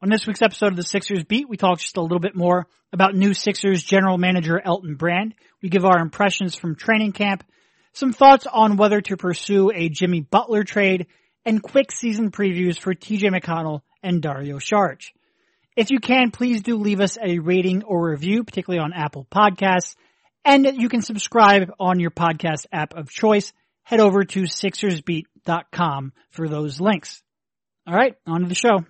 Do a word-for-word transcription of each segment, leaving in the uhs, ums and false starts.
On this week's episode of the Sixers Beat, we talk just a little bit more about new Sixers general manager Elton Brand. We give our impressions from training camp, some thoughts on whether to pursue a Jimmy Butler trade, and quick season previews for T J McConnell and Dario Saric. If you can, please do leave us a rating or review, particularly on Apple Podcasts, and you can subscribe on your podcast app of choice. Head over to Sixers Beat dot com for those links. All right, on to the show.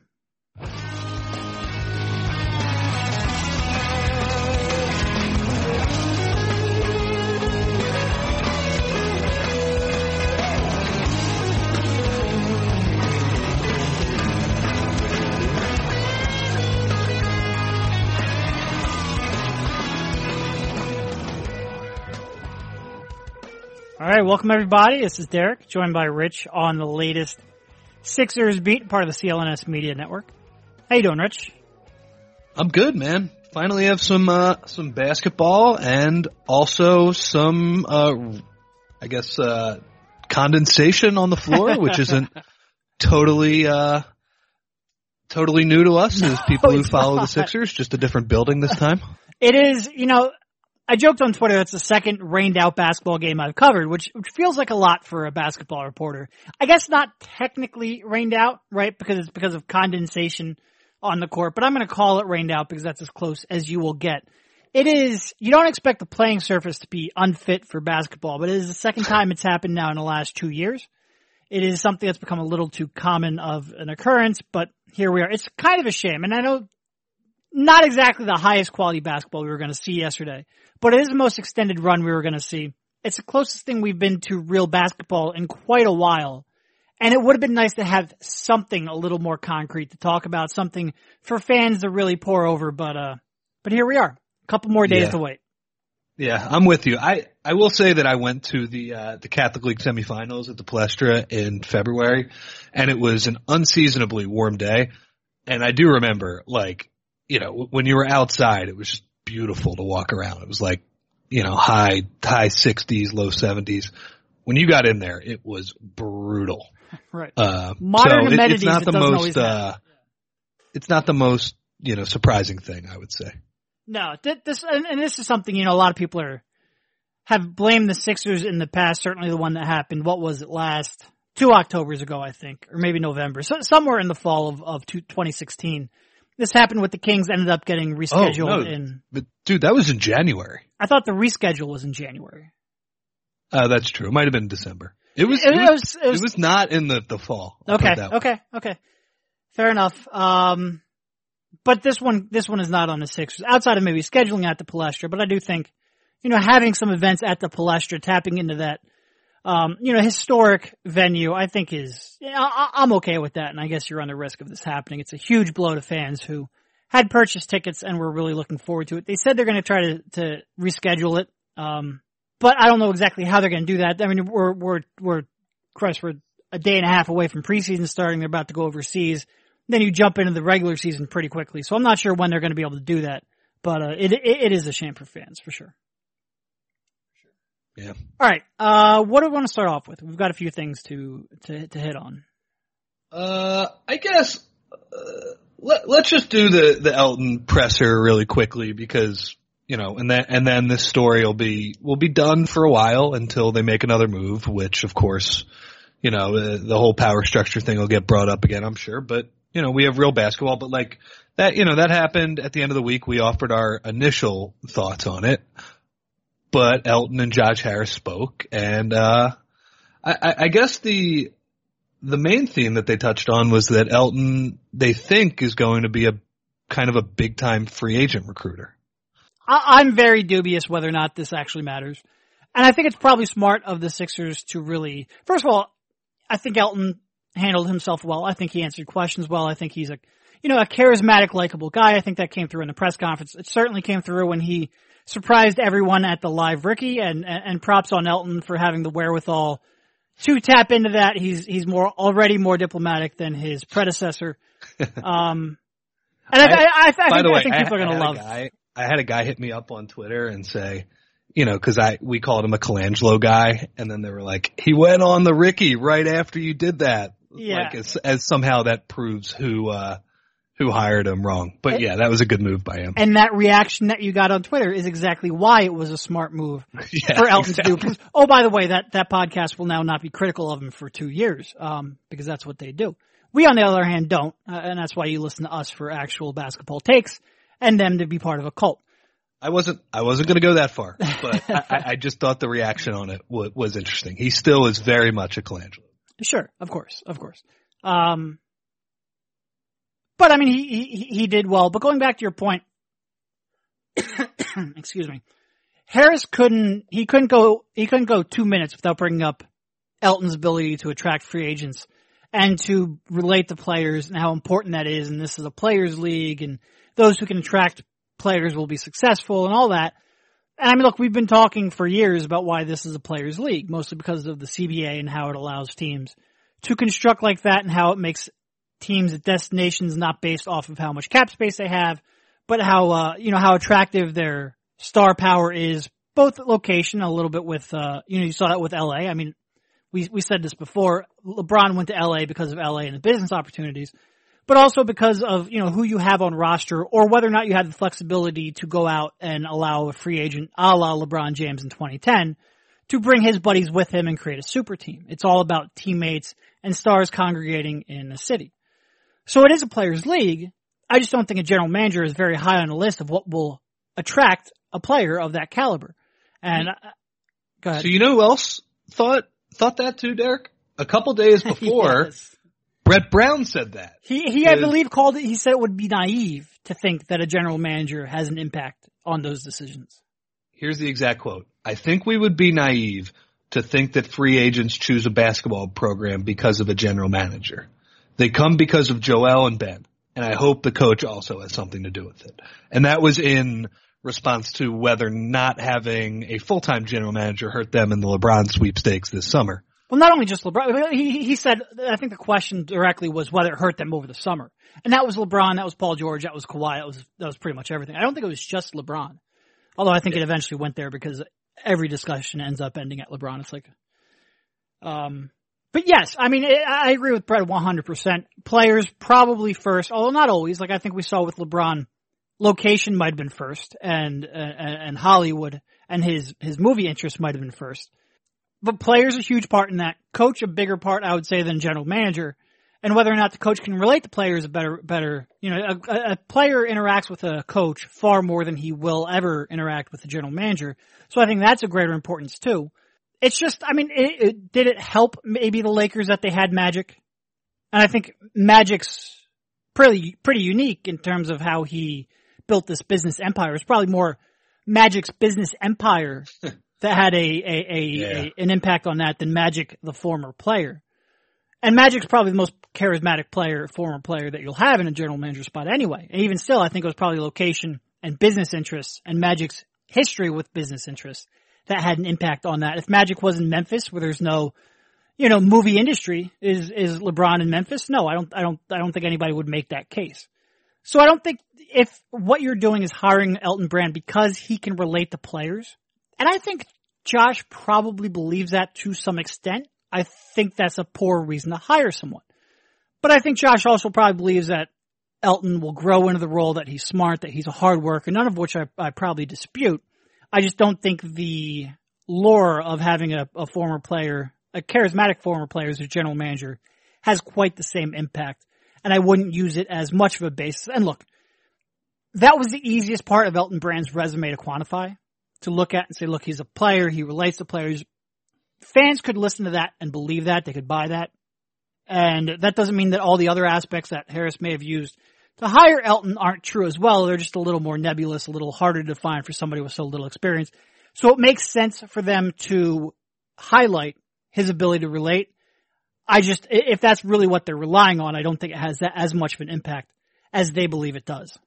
All right, welcome everybody. This is Derek, joined by Rich on the latest Sixers Beat, part of the C L N S Media Network. How you doing, Rich? I'm good, man. Finally have some uh, some basketball and also some, uh, I guess, uh, condensation on the floor, which isn't totally uh, totally new to us as people No, who follow not. the Sixers. Just a different building this time. It is, you know, I joked on Twitter that's the second rained out basketball game I've covered, which, which feels like a lot for a basketball reporter. I guess not technically rained out, right? Because it's because of condensation on the court, but I'm going to call it rained out because that's as close as you will get. It is, you don't expect the playing surface to be unfit for basketball, but it is the second time it's happened now in the last two years. It is something that's become a little too common of an occurrence, but here we are. It's kind of a shame, and I know not exactly the highest quality basketball we were going to see yesterday, but it is the most extended run we were going to see. It's the closest thing we've been to real basketball in quite a while. And it would have been nice to have something a little more concrete to talk about, something for fans to really pour over. But, uh, but here we are. A couple more days Yeah. to wait. Yeah, I'm with you. I, I will say that I went to the uh, the Catholic League semifinals at the Palestra in February, and it was an unseasonably warm day. And I do remember, like, you know, when you were outside, it was just beautiful to walk around. It was like, you know, high, high sixties, low seventies. When you got in there, it was brutal. Right. Uh, Modern so amenities, it, it's not it the doesn't most, always uh, have. it's not the most, you know, surprising thing, I would say. No, th- this, and, and this is something, you know, a lot of people are, have blamed the Sixers in the past, certainly the one that happened, what was it, last, two Octobers ago, I think, or maybe November, so somewhere in the fall of, of twenty sixteen. This happened with the Kings, ended up getting rescheduled oh, no, in. But dude, that was in January. I thought the reschedule was in January. Uh, that's true. It might have been December. It was, It, it, it was, was, it was, it was not in the, the fall. I'll put okay, it that way. okay, okay. Fair enough. Um, but this one, this one is not on the Sixers, outside of maybe scheduling at the Palestra, but I do think, you know, having some events at the Palestra, tapping into that, Um, you know, historic venue, I think is, yeah, I, I'm okay with that. And I guess you're on the risk of this happening. It's a huge blow to fans who had purchased tickets and were really looking forward to it. They said they're going to try to, to reschedule it. Um, but I don't know exactly how they're going to do that. I mean, we're, we're, we're, Christ, we're a day and a half away from preseason starting. They're about to go overseas. Then you jump into the regular season pretty quickly. So I'm not sure when they're going to be able to do that. But, uh, it, it, it is a shame for fans for sure. Yeah. All right. Uh, what do we want to start off with? We've got a few things to to, to hit on. Uh, I guess uh, let, let's just do the, the Elton presser really quickly because, you know, and then and then this story will be will be done for a while until they make another move, which of course, you know, the, the whole power structure thing will get brought up again, I'm sure. But you know, we have real basketball, but like that, you know, that happened at the end of the week. We offered our initial thoughts on it. But Elton and Josh Harris spoke, and uh, I, I guess the the main theme that they touched on was that Elton, they think, is going to be a kind of a big time free agent recruiter. I, I'm very dubious whether or not this actually matters, and I think it's probably smart of the Sixers to really. First of all, I think Elton handled himself well. I think he answered questions well. I think he's a you know a charismatic, likable guy. I think that came through in the press conference. It certainly came through when he surprised everyone at the live Ricky, and, and, and props on Elton for having the wherewithal to tap into that. He's, he's more, already more diplomatic than his predecessor. Um, and I, I, I, I, think, by the way, I think people I, are going to love it. I had a guy hit me up on Twitter and say, you know, cause I, we called him a Colangelo guy, and then they were like, he went on the Ricky right after you did that. Yeah. Like as, as somehow that proves who, uh, who hired him wrong. But yeah, that was a good move by him. And that reaction that you got on Twitter is exactly why it was a smart move yeah, for Elton exactly. to do. Because, oh, by the way, that, that podcast will now not be critical of him for two years, um, because that's what they do. We, on the other hand, don't, uh, and that's why you listen to us for actual basketball takes and them to be part of a cult. I wasn't, I wasn't going to go that far, but I, I just thought the reaction on it was, was interesting. He still is very much a Colangelo. Sure, of course, of course. Um, but I mean, he, he, he did well. But going back to your point, excuse me, Harris couldn't, he couldn't go, he couldn't go two minutes without bringing up Elton's ability to attract free agents and to relate to players and how important that is. And this is a players league and those who can attract players will be successful and all that. And I mean, look, we've been talking for years about why this is a players league, mostly because of the C B A and how it allows teams to construct like that and how it makes teams at destinations not based off of how much cap space they have, but how, uh, you know, how attractive their star power is, both location, a little bit with, uh, you know, you saw that with L A. I mean, we, we said this before. LeBron went to L A because of L A and the business opportunities, but also because of, you know, who you have on roster or whether or not you have the flexibility to go out and allow a free agent a la LeBron James in twenty ten to bring his buddies with him and create a super team. It's all about teammates and stars congregating in a city. So it is a players league. I just don't think a general manager is very high on the list of what will attract a player of that caliber. And uh, go ahead. So you know who else thought, thought that too, Derek? A couple days before, yes. Brett Brown said that. He, he, I believe, called it, he said it would be naive to think that a general manager has an impact on those decisions. Here's the exact quote. I think we would be naive to think that free agents choose a basketball program because of a general manager. They come because of Joel and Ben, and I hope the coach also has something to do with it. And that was in response to whether not having a full-time general manager hurt them in the LeBron sweepstakes this summer. Well, not only just LeBron. He, he said, I think the question directly was whether it hurt them over the summer. And that was LeBron, that was Paul George, that was Kawhi, that was, that was pretty much everything. I don't think it was just LeBron. Although I think yeah. it eventually went there because every discussion ends up ending at LeBron. It's like, um, but yes, I mean, I agree with Brett one hundred percent. Players probably first, although not always. Like I think we saw with LeBron, location might have been first, and uh, and Hollywood and his his movie interest might have been first. But players a huge part in that. Coach a bigger part, I would say, than general manager. And whether or not the coach can relate to players a better, better, you know, a, a player interacts with a coach far more than he will ever interact with the general manager. So I think that's of greater importance too. It's just, I mean, it, it, did it help maybe the Lakers that they had Magic? And I think Magic's pretty, pretty unique in terms of how he built this business empire. It's probably more Magic's business empire that had a, a, a, yeah. a, an impact on that than Magic, the former player. And Magic's probably the most charismatic player, former player that you'll have in a general manager spot anyway. And even still, I think it was probably location and business interests and Magic's history with business interests that had an impact on that. If Magic was in Memphis where there's no, you know, movie industry, is, is LeBron in Memphis? No, I don't, I don't, I don't think anybody would make that case. So I don't think if what you're doing is hiring Elton Brand because he can relate to players, and I think Josh probably believes that to some extent. I think that's a poor reason to hire someone. But I think Josh also probably believes that Elton will grow into the role, that he's smart, that he's a hard worker, none of which I, I probably dispute. I just don't think the lure of having a, a former player, a charismatic former player as a general manager has quite the same impact. And I wouldn't use it as much of a basis. And look, that was the easiest part of Elton Brand's resume to quantify, to look at and say, look, he's a player, he relates to players. Fans could listen to that and believe that, they could buy that. And that doesn't mean that all the other aspects that Harris may have used to hire Elton aren't true as well. They're just a little more nebulous, a little harder to define for somebody with so little experience. So it makes sense for them to highlight his ability to relate. I just, if that's really what they're relying on, I don't think it has that as much of an impact as they believe it does.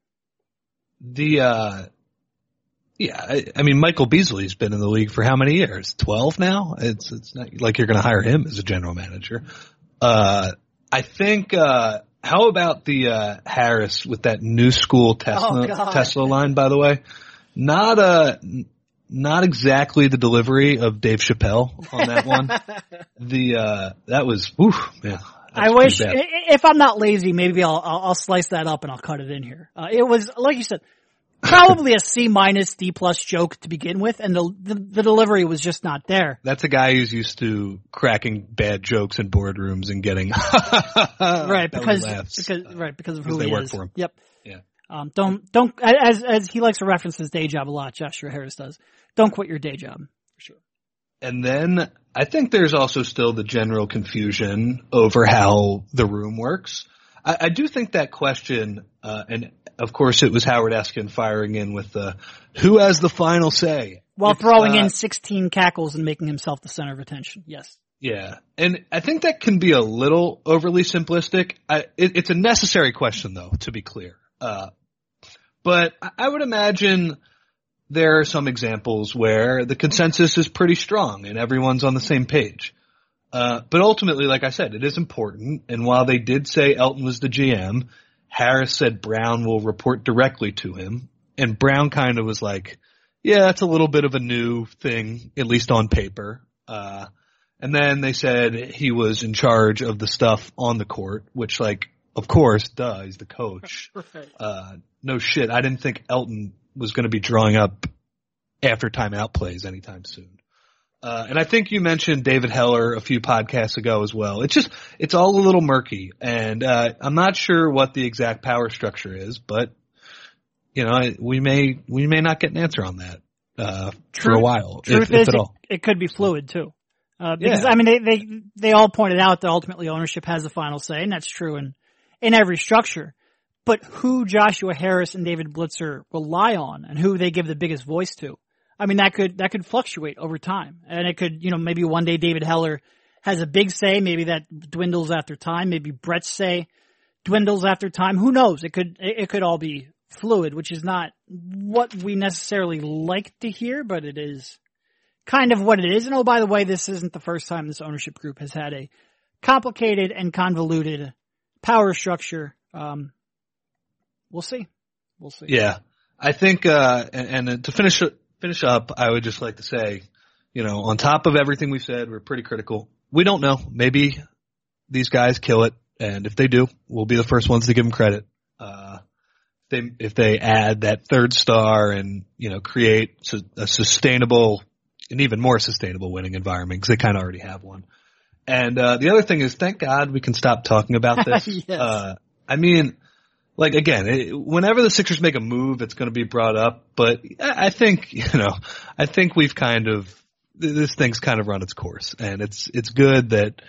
The, uh, yeah, I, I mean, Michael Beasley's been in the league for how many years? twelve now? It's, it's not like you're going to hire him as a general manager. Uh, I think, uh, how about the, uh, Harris with that new school Tesla, oh, Tesla line, by the way? Not, uh, not exactly the delivery of Dave Chappelle on that one. the, uh, that was, oof, man. I wish, if I'm not lazy, maybe I'll, I'll, I'll slice that up and I'll cut it in here. Uh, it was, like you said, probably a C minus, D plus joke to begin with, and the, the the delivery was just not there. That's a guy who's used to cracking bad jokes in boardrooms and getting right because because right because of who they he work is. For him. Yep. Yeah. Um. Don't don't as as he likes to reference his day job a lot. Joshua Harris does. Don't quit your day job for sure. And then I think there's also still the general confusion over how the room works. I, I do think that question, uh, and of course it was Howard Eskin firing in with the, who has the final say? While it's, throwing uh, in sixteen cackles and making himself the center of attention. Yes. Yeah. And I think that can be a little overly simplistic. I, it, it's a necessary question though, to be clear. Uh, but I, I would imagine there are some examples where the consensus is pretty strong and everyone's on the same page. Uh, but ultimately, like I said, it is important. And while they did say Elton was the G M, Harris said Brown will report directly to him. And Brown kind of was like, yeah, that's a little bit of a new thing, at least on paper. Uh, and then they said he was in charge of the stuff on the court, which like, of course, duh, he's the coach. Right. Uh, no shit. I didn't think Elton was going to be drawing up after timeout plays anytime soon. Uh, and I think you mentioned David Heller a few podcasts ago as well. It's just, it's all a little murky, and uh, I'm not sure what the exact power structure is, but you know, we may we may not get an answer on that uh, for a while, Truth if, if is, at all. It, it could be fluid too, uh, because Yeah. I mean, they, they they all pointed out that ultimately ownership has the final say, and that's true in in every structure. But who Joshua Harris and David Blitzer rely on, and who they give the biggest voice to, I mean, that could that could fluctuate over time, and it could, you know, maybe one day David Heller has a big say, maybe that dwindles after time, maybe Brett's say dwindles after time. Who knows? It could it, it could all be fluid, which is not what we necessarily like to hear, but it is kind of what it is. And oh, by the way, this isn't the first time this ownership group has had a complicated and convoluted power structure. Um, we'll see. We'll see. Yeah, I think, uh, and, and to finish finish up, I would just like to say, you know, on top of everything we've said, we're pretty critical. We don't know. Maybe these guys kill it, and if they do, we'll be the first ones to give them credit. Uh, they, if they add that third star and, you know, create su- a sustainable, an even more sustainable winning environment, because they kind of already have one. And uh, the other thing is, thank God we can stop talking about this. Yes. uh, I mean, like, again, it, whenever the Sixers make a move, it's going to be brought up. But I, I think, you know, I think we've kind of, this thing's kind of run its course. And it's it's good that,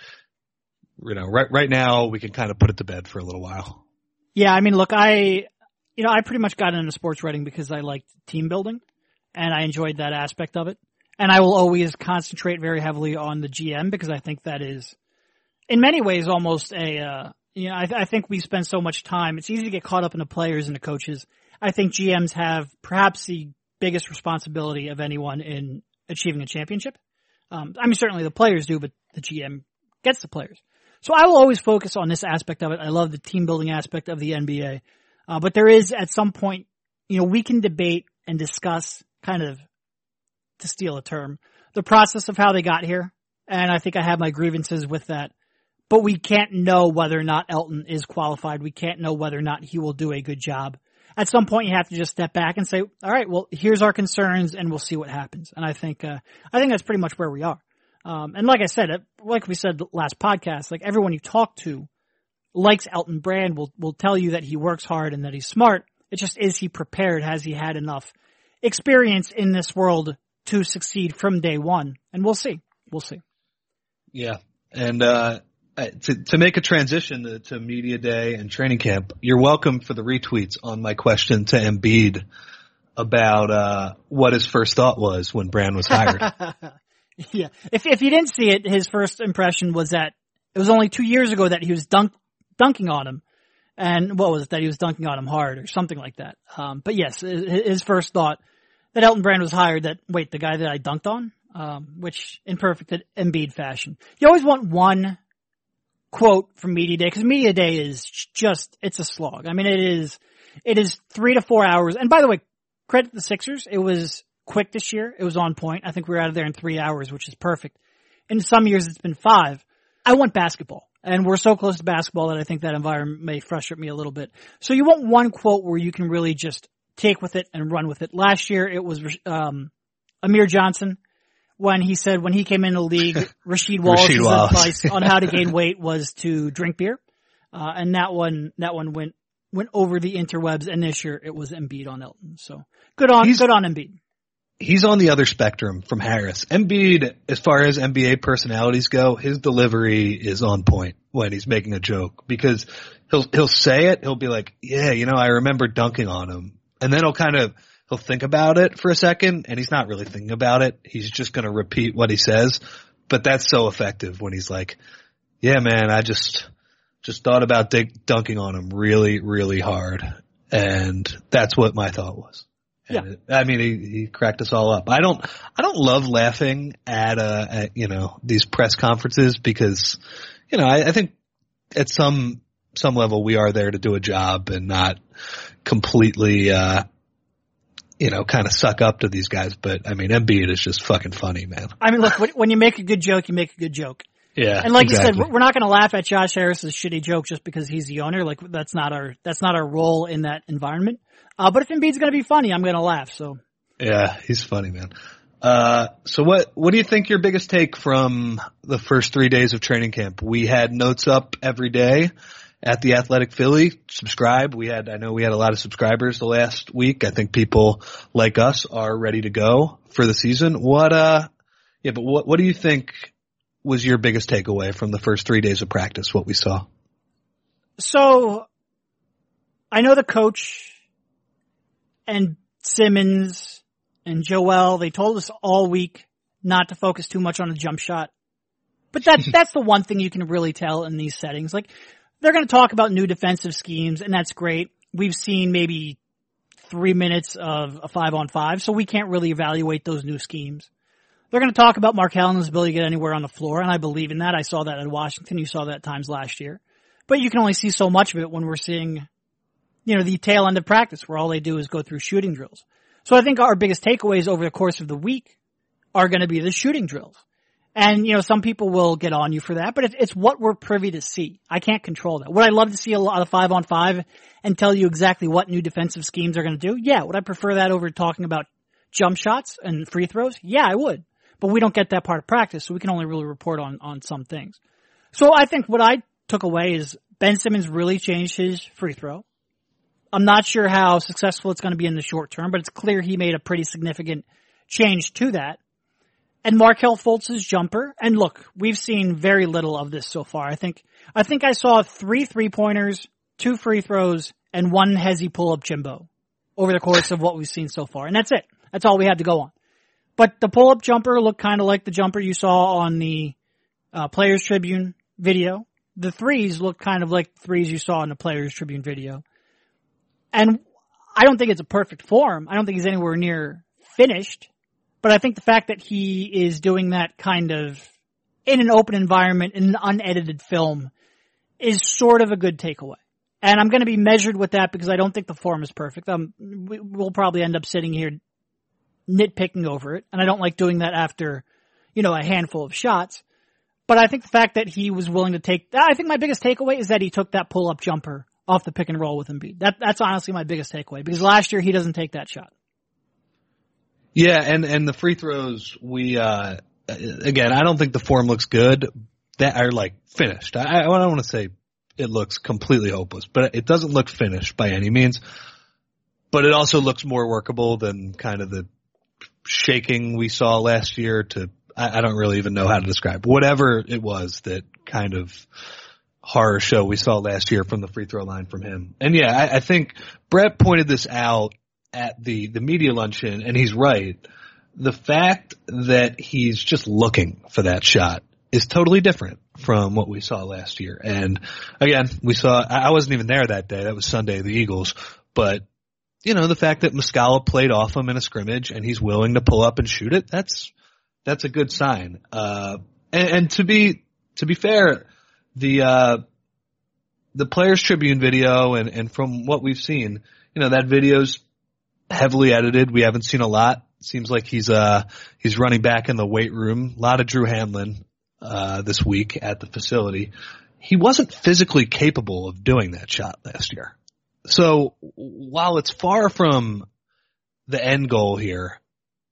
you know, right right now we can kind of put it to bed for a little while. Yeah, I mean, look, I, you know, I pretty much got into sports writing because I liked team building, and I enjoyed that aspect of it. And I will always concentrate very heavily on the G M because I think that is, in many ways, almost a, uh, you know, I, I think we spend so much time. It's easy to get caught up in the players and the coaches. I think G Ms have perhaps the biggest responsibility of anyone in achieving a championship. Um, I mean, certainly the players do, but the G M gets the players. So I will always focus on this aspect of it. I love the team building aspect of the N B A. Uh, but there is at some point, you know, we can debate and discuss kind of, to steal a term, the process of how they got here. And I think I have my grievances with that. But we can't know whether or not Elton is qualified. We can't know whether or not he will do a good job. At some point, you have to just step back and say, all right, well, here's our concerns, and we'll see what happens. And I think, uh, I think that's pretty much where we are. Um, and like I said, like we said last podcast, like everyone you talk to likes Elton Brand, will, will tell you that he works hard and that he's smart. It just, is he prepared? Has he had enough experience in this world to succeed from day one? And we'll see. We'll see. Yeah. And, uh, to, to make a transition to, to media day and training camp, you're welcome for the retweets on my question to Embiid about, uh, what his first thought was when Brand was hired. Yeah. If, if you didn't see it, his first impression was that it was only two years ago that he was dunk, dunking on him. And what was it? That he was dunking on him hard or something like that. Um, but yes, his first thought that Elton Brand was hired, that, wait, the guy that I dunked on? Um, which in perfect Embiid fashion. You always want one quote from Media Day, because Media Day is just, it's a slog. I mean, it is, it is three to four hours. And by the way, credit the Sixers. It was quick this year. It was on point. I think we were out of there in three hours, which is perfect. In some years, it's been five. I want basketball. And we're so close to basketball that I think that environment may frustrate me a little bit. So you want one quote where you can really just take with it and run with it. Last year it was um, Amir Johnson when he said when he came in the league, Rasheed Wallace's Rasheed Wallace. advice on how to gain weight was to drink beer. Uh, and that one, that one went, went over the interwebs, and this year it was Embiid on Elton. So good on, He's, good on Embiid. He's on the other spectrum from Harris. Embiid, as far as N B A personalities go, his delivery is on point when he's making a joke, because he'll, he'll say it, he'll be like, yeah, you know, I remember dunking on him. And then he'll kind of, he'll think about it for a second, and he's not really thinking about it. He's just going to repeat what he says. But that's so effective when he's like, yeah, man, I just, just thought about dig- dunking on him really, really hard. And that's what my thought was. And Yeah. it, I mean, he, he cracked us all up. I don't, I don't love laughing at, uh, at, you know, these press conferences because, you know, I, I think at some, some level we are there to do a job and not completely, uh, you know, kind of suck up to these guys. But I mean, Embiid is just fucking funny, man. I mean, look, when you make a good joke, you make a good joke. Yeah. And like exactly. you said, we're not going to laugh at Josh Harris's shitty joke just because he's the owner. Like that's not our, that's not our role in that environment. Uh, but if Embiid's going to be funny, I'm going to laugh. So. Yeah, he's funny, man. Uh, so what, what do you think your biggest take from the first three days of training camp? We had notes up every day at the Athletic Philly. Subscribe. We had, I know we had a lot of subscribers the last week. I think people like us are ready to go for the season. What, uh, yeah, but what, what do you think was your biggest takeaway from the first three days of practice, what we saw? So I know the coach and Simmons and Joel, they told us all week not to focus too much on the jump shot. But that, that's the one thing you can really tell in these settings. Like, they're going to talk about new defensive schemes, and that's great. We've seen maybe three minutes of a five on five, so we can't really evaluate those new schemes. They're going to talk about Mark Allen's ability to get anywhere on the floor, and I believe in that. I saw that at Washington. You saw that at times last year. But you can only see so much of it when we're seeing, you know, the tail end of practice where all they do is go through shooting drills. So I think our biggest takeaways over the course of the week are going to be the shooting drills. And, you know, some people will get on you for that, but it's, it's what we're privy to see. I can't control that. Would I love to see a lot of five on five and tell you exactly what new defensive schemes are going to do? Yeah. Would I prefer that over talking about jump shots and free throws? Yeah, I would. But we don't get that part of practice, so we can only really report on, on some things. So I think what I took away is Ben Simmons really changed his free throw. I'm not sure how successful it's going to be in the short term, but it's clear he made a pretty significant change to that. And Markelle Fultz's jumper. And look, we've seen very little of this so far. I think, I think I saw three three-pointers, two free throws, and one hezzy pull-up Jimbo over the course of what we've seen so far. And that's it. That's all we had to go on. But the pull-up jumper looked kind of like the jumper you saw on the uh, Players Tribune video. The threes looked kind of like threes you saw in the Players Tribune video. And I don't think it's a perfect form. I don't think he's anywhere near finished. But I think the fact that he is doing that kind of in an open environment, in an unedited film, is sort of a good takeaway. And I'm going to be measured with that because I don't think the form is perfect. Um, we, we'll probably end up sitting here nitpicking over it. And I don't like doing that after, you know, a handful of shots. But I think the fact that he was willing to take, I think my biggest takeaway is that he took that pull-up jumper off the pick and roll with Embiid. That, that's honestly my biggest takeaway because last year he doesn't take that shot. Yeah, and, and the free throws, we, uh, again, I don't think the form looks good. That are like finished. I, I don't want to say it looks completely hopeless, but it doesn't look finished by any means. But it also looks more workable than kind of the shaking we saw last year to, I, I don't really even know how to describe whatever it was that kind of horror show we saw last year from the free throw line from him. And yeah, I, I think Brett pointed this out at the, the media luncheon, and he's right. The fact that he's just looking for that shot is totally different from what we saw last year. And again, we saw, I wasn't even there that day. That was Sunday, the Eagles. But, you know, the fact that Muscala played off him in a scrimmage and he's willing to pull up and shoot it, that's, that's a good sign. Uh, and, and to be, to be fair, the, uh, the Players Tribune video and, and from what we've seen, you know, that video's heavily edited. We haven't seen a lot. Seems like he's, uh, he's running back in the weight room. A lot of Drew Hanlon, uh, this week at the facility. he wasn't physically capable of doing that shot last year. So while it's far from the end goal here,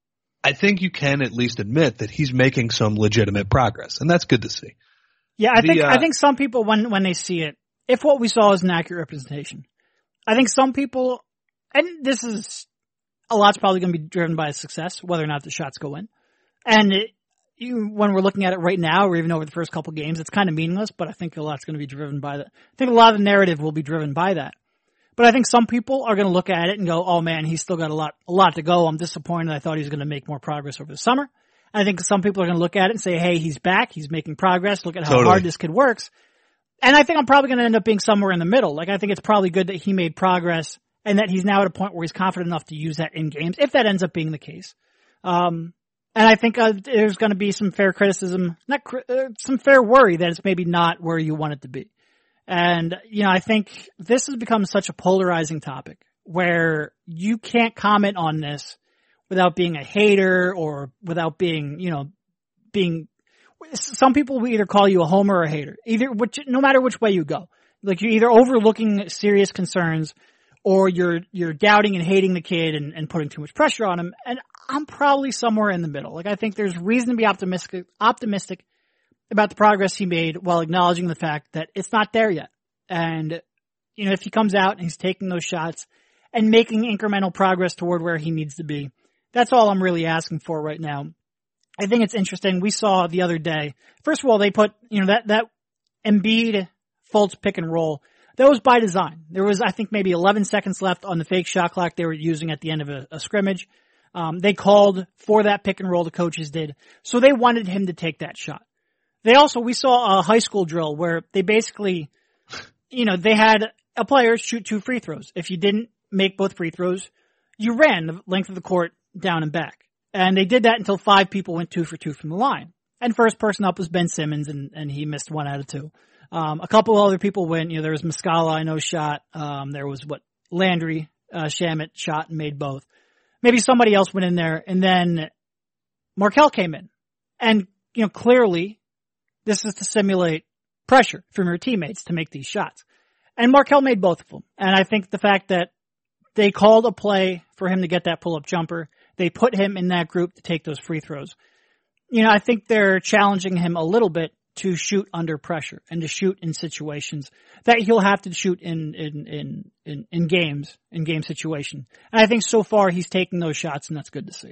I think you can at least admit that he's making some legitimate progress, and that's good to see. Yeah, I the, think uh, I think some people, when when they see it, if what we saw is an accurate representation, I think some people, and this is a lot's probably going to be driven by success, whether or not the shots go in. And it, you, when we're looking at it right now, or even over the first couple games, it's kind of meaningless. But I think a lot's going to be driven by that. I think a lot of the narrative will be driven by that. But I think some people are going to look at it and go, "Oh man, he's still got a lot, a lot to go. I'm disappointed. I thought he was going to make more progress over the summer." And I think some people are going to look at it and say, "Hey, he's back. He's making progress. Look at how Totally. hard this kid works." And I think I'm probably going to end up being somewhere in the middle. Like, I think it's probably good that he made progress and that he's now at a point where he's confident enough to use that in games, if that ends up being the case. Um, and I think uh, there's going to be some fair criticism, not cri- uh, some fair worry that it's maybe not where you want it to be. And, you know, I think this has become such a polarizing topic where you can't comment on this without being a hater or without being, you know, being, some people will either call you a homer or a hater, either which, no matter which way you go. Like, you're either overlooking serious concerns or you're, you're doubting and hating the kid and, and putting too much pressure on him. And I'm probably somewhere in the middle. Like, I think there's reason to be optimistic, optimistic about the progress he made while acknowledging the fact that it's not there yet. And, you know, if he comes out and he's taking those shots and making incremental progress toward where he needs to be, that's all I'm really asking for right now. I think it's interesting. We saw the other day, first of all, they put, you know, that, that Embiid Fultz pick and roll, that was by design. There was, I think, maybe eleven seconds left on the fake shot clock they were using at the end of a, a scrimmage. Um, they called for that pick and roll, the coaches did. So they wanted him to take that shot. They also, we saw a high school drill where they basically, you know, they had a player shoot two free throws. If you didn't make both free throws, you ran the length of the court down and back. And they did that until five people went two for two from the line. And first person up was Ben Simmons, and, and he missed one out of two. Um, a couple other people went, you know, there was Muscala, I know, shot. Um, there was what, Landry, uh, Shamet shot and made both. Maybe somebody else went in there, and then Markelle came in. And, you know, clearly this is to simulate pressure from your teammates to make these shots. And Markelle made both of them. And I think the fact that they called a play for him to get that pull-up jumper, they put him in that group to take those free throws. You know, I think they're challenging him a little bit to shoot under pressure and to shoot in situations that he'll have to shoot in, in, in, in, in games, in game situation. And I think so far he's taking those shots, and that's good to see.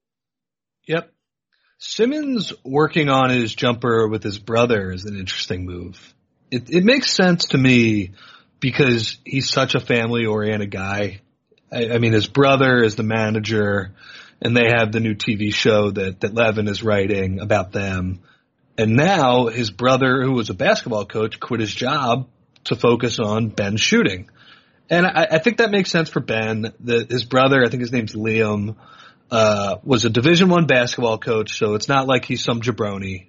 Yep. Simmons working on his jumper with his brother is an interesting move. It, it makes sense to me because he's such a family-oriented guy. I, I mean, his brother is the manager, and they have the new T V show that, that Levin is writing about them. And now his brother, who was a basketball coach, quit his job to focus on Ben shooting. And I, I think that makes sense for Ben. The, his brother, I think his name's Liam, uh, was a Division One basketball coach, so it's not like he's some jabroni.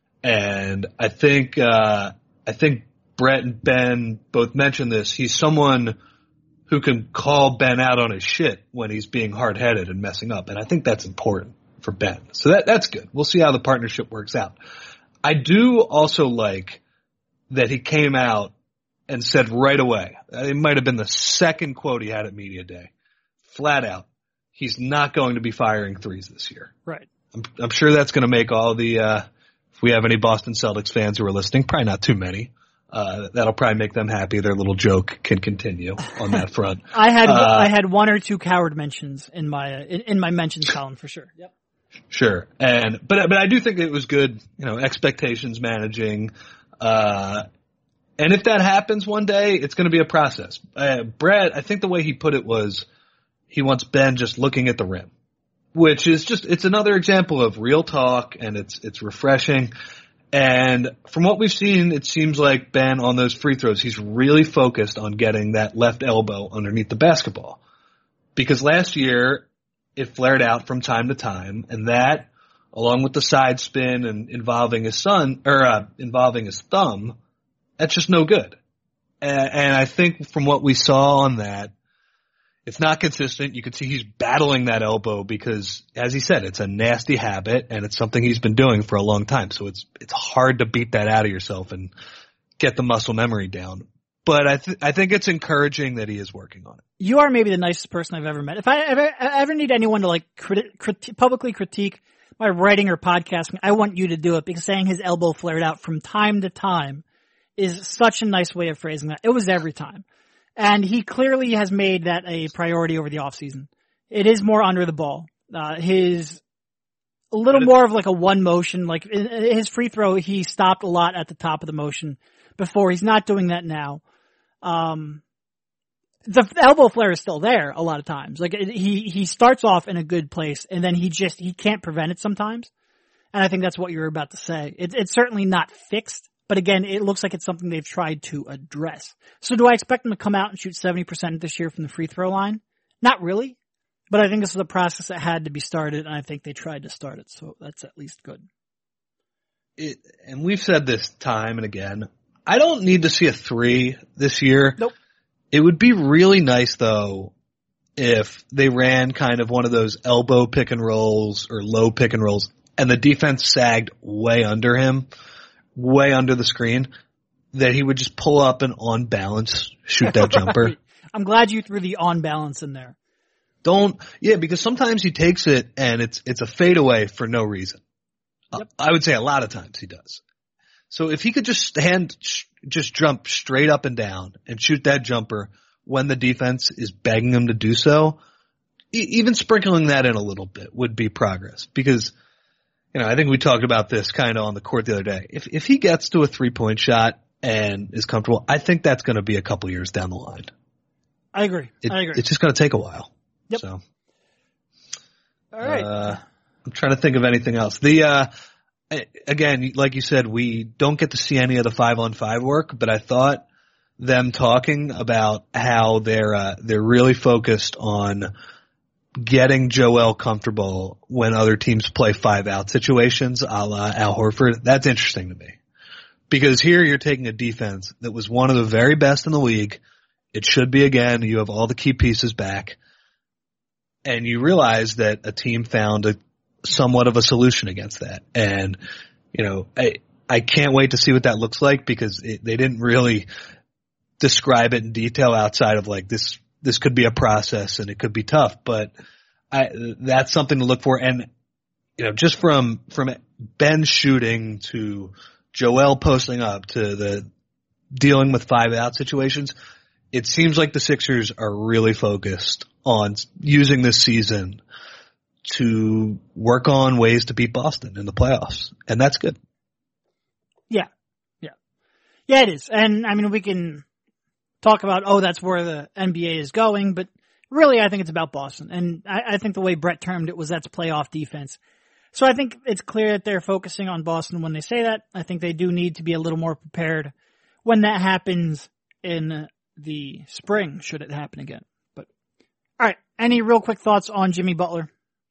And I think, uh, I think Brett and Ben both mentioned this. He's someone who can call Ben out on his shit when he's being hard-headed and messing up. And I think that's important for Ben. So that, that's good. We'll see how the partnership works out. I do also like that he came out and said right away, it might have been the second quote he had at Media Day, flat out, he's not going to be firing threes this year. Right. I'm, I'm sure that's going to make all the, uh, if we have any Boston Celtics fans who are listening, probably not too many, uh, that'll probably make them happy. Their little joke can continue on that front. I had, uh, I had one or two coward mentions in my, in, in my mentions column for sure. Yep. Sure. And, but, but I do think it was good, you know, expectations managing, uh, and if that happens one day, it's going to be a process. Uh, Brett, I think the way he put it was he wants Ben just looking at the rim, which is just, it's another example of real talk, and it's, it's refreshing. And from what we've seen, it seems like Ben on those free throws, he's really focused on getting that left elbow underneath the basketball. Because last year, it flared out from time to time, and that, along with the side spin and involving his son, or uh, involving his thumb, that's just no good. And, and I think from what we saw on that, it's not consistent. You can see he's battling that elbow because, as he said, it's a nasty habit, and it's something he's been doing for a long time. So it's it's hard to beat that out of yourself and get the muscle memory down. But I th- I think it's encouraging that he is working on it. You are maybe the nicest person I've ever met. If I ever, ever need anyone to like criti- criti- publicly critique my writing or podcasting, I want you to do it, because saying his elbow flared out from time to time is such a nice way of phrasing that. It was every time. And he clearly has made that a priority over the offseason. It is more under the ball. Uh, his, a little more of like a one motion, like his free throw, he stopped a lot at the top of the motion before. He's not doing that now. Um, the elbow flare is still there a lot of times. Like he, he starts off in a good place and then he just, he can't prevent it sometimes. And I think that's what you were about to say. It, it's certainly not fixed, but again, it looks like it's something they've tried to address. So do I expect them to come out and shoot seventy percent this year from the free throw line? Not really, but I think this is a process that had to be started, and I think they tried to start it. So that's at least good. It, and we've said this time and again, I don't need to see a three this year. Nope. It would be really nice, though, if they ran kind of one of those elbow pick and rolls or low pick and rolls, and the defense sagged way under him, way under the screen, that he would just pull up and on balance shoot that jumper. Right. I'm glad you threw the on balance in there. Don't, yeah, because sometimes he takes it and it's it's a fadeaway for no reason. Yep. Uh, I would say a lot of times he does. So if he could just stand, sh- just jump straight up and down and shoot that jumper when the defense is begging him to do so, e- even sprinkling that in a little bit would be progress. Because, you know, I think we talked about this kind of on the court the other day. If if he gets to a three-point shot and is comfortable, I think that's going to be a couple years down the line. I agree. It, I agree. It's just going to take a while. Yep. So, all right. Uh, I'm trying to think of anything else. The uh, again, like you said, we don't get to see any of the five on five work, but I thought them talking about how they're uh, they're really focused on getting Joel comfortable when other teams play five out situations, a la Al Horford. That's interesting to me, because here you're taking a defense that was one of the very best in the league. It should be again. You have all the key pieces back. And you realize that a team found a somewhat of a solution against that. And, you know, I, I can't wait to see what that looks like, because it, they didn't really describe it in detail outside of like this, this could be a process and it could be tough, but I, that's something to look for. And, you know, just from, from Ben shooting to Joel posting up to the dealing with five out situations, it seems like the Sixers are really focused on using this season to work on ways to beat Boston in the playoffs. And that's good. Yeah. Yeah. Yeah, it is. And I mean, we can talk about, oh, that's where the N B A is going, but really I think it's about Boston. And I, I think the way Brett termed it was that's playoff defense. So I think it's clear that they're focusing on Boston when they say that. I think they do need to be a little more prepared when that happens in the spring, should it happen again. But all right, any real quick thoughts on Jimmy Butler?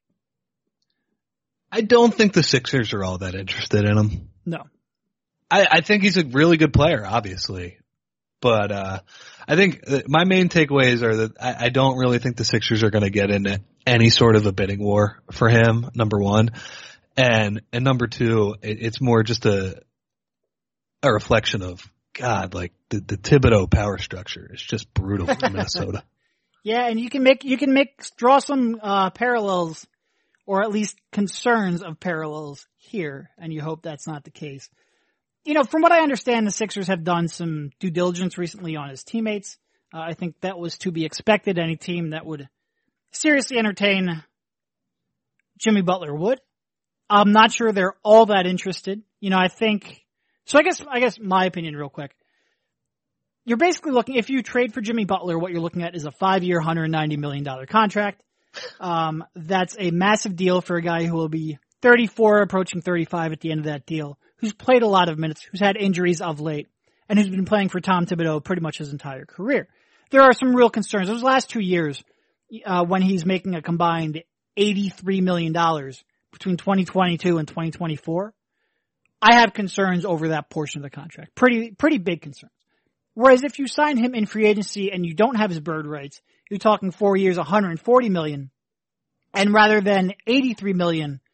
I don't think the Sixers are all that interested in him. No. I, I think he's a really good player, obviously. But uh I think my main takeaways are that I, I don't really think the Sixers are going to get into any sort of a bidding war for him, number one. And and number two, it, it's more just a a reflection of, God, like the, the Thibodeau power structure is just brutal in Minnesota. Yeah, and you can make you can make draw some uh parallels, or at least concerns of parallels here, and you hope that's not the case. You know, from what I understand, the Sixers have done some due diligence recently on his teammates. Uh, I think that was to be expected. Any team that would seriously entertain Jimmy Butler would. I'm not sure they're all that interested. You know, I think, so I guess, I guess my opinion real quick. You're basically looking, if you trade for Jimmy Butler, what you're looking at is a five-year, one hundred ninety million dollars contract. Um, that's a massive deal for a guy who will be thirty-four, approaching thirty-five at the end of that deal, who's played a lot of minutes, who's had injuries of late, and who's been playing for Tom Thibodeau pretty much his entire career. There are some real concerns. Those last two years, uh, when he's making a combined eighty-three million dollars between twenty twenty-two and twenty twenty-four, I have concerns over that portion of the contract. Pretty, pretty big concerns. Whereas if you sign him in free agency and you don't have his bird rights, you're talking four years, one hundred forty million dollars, and rather than eighty-three million dollars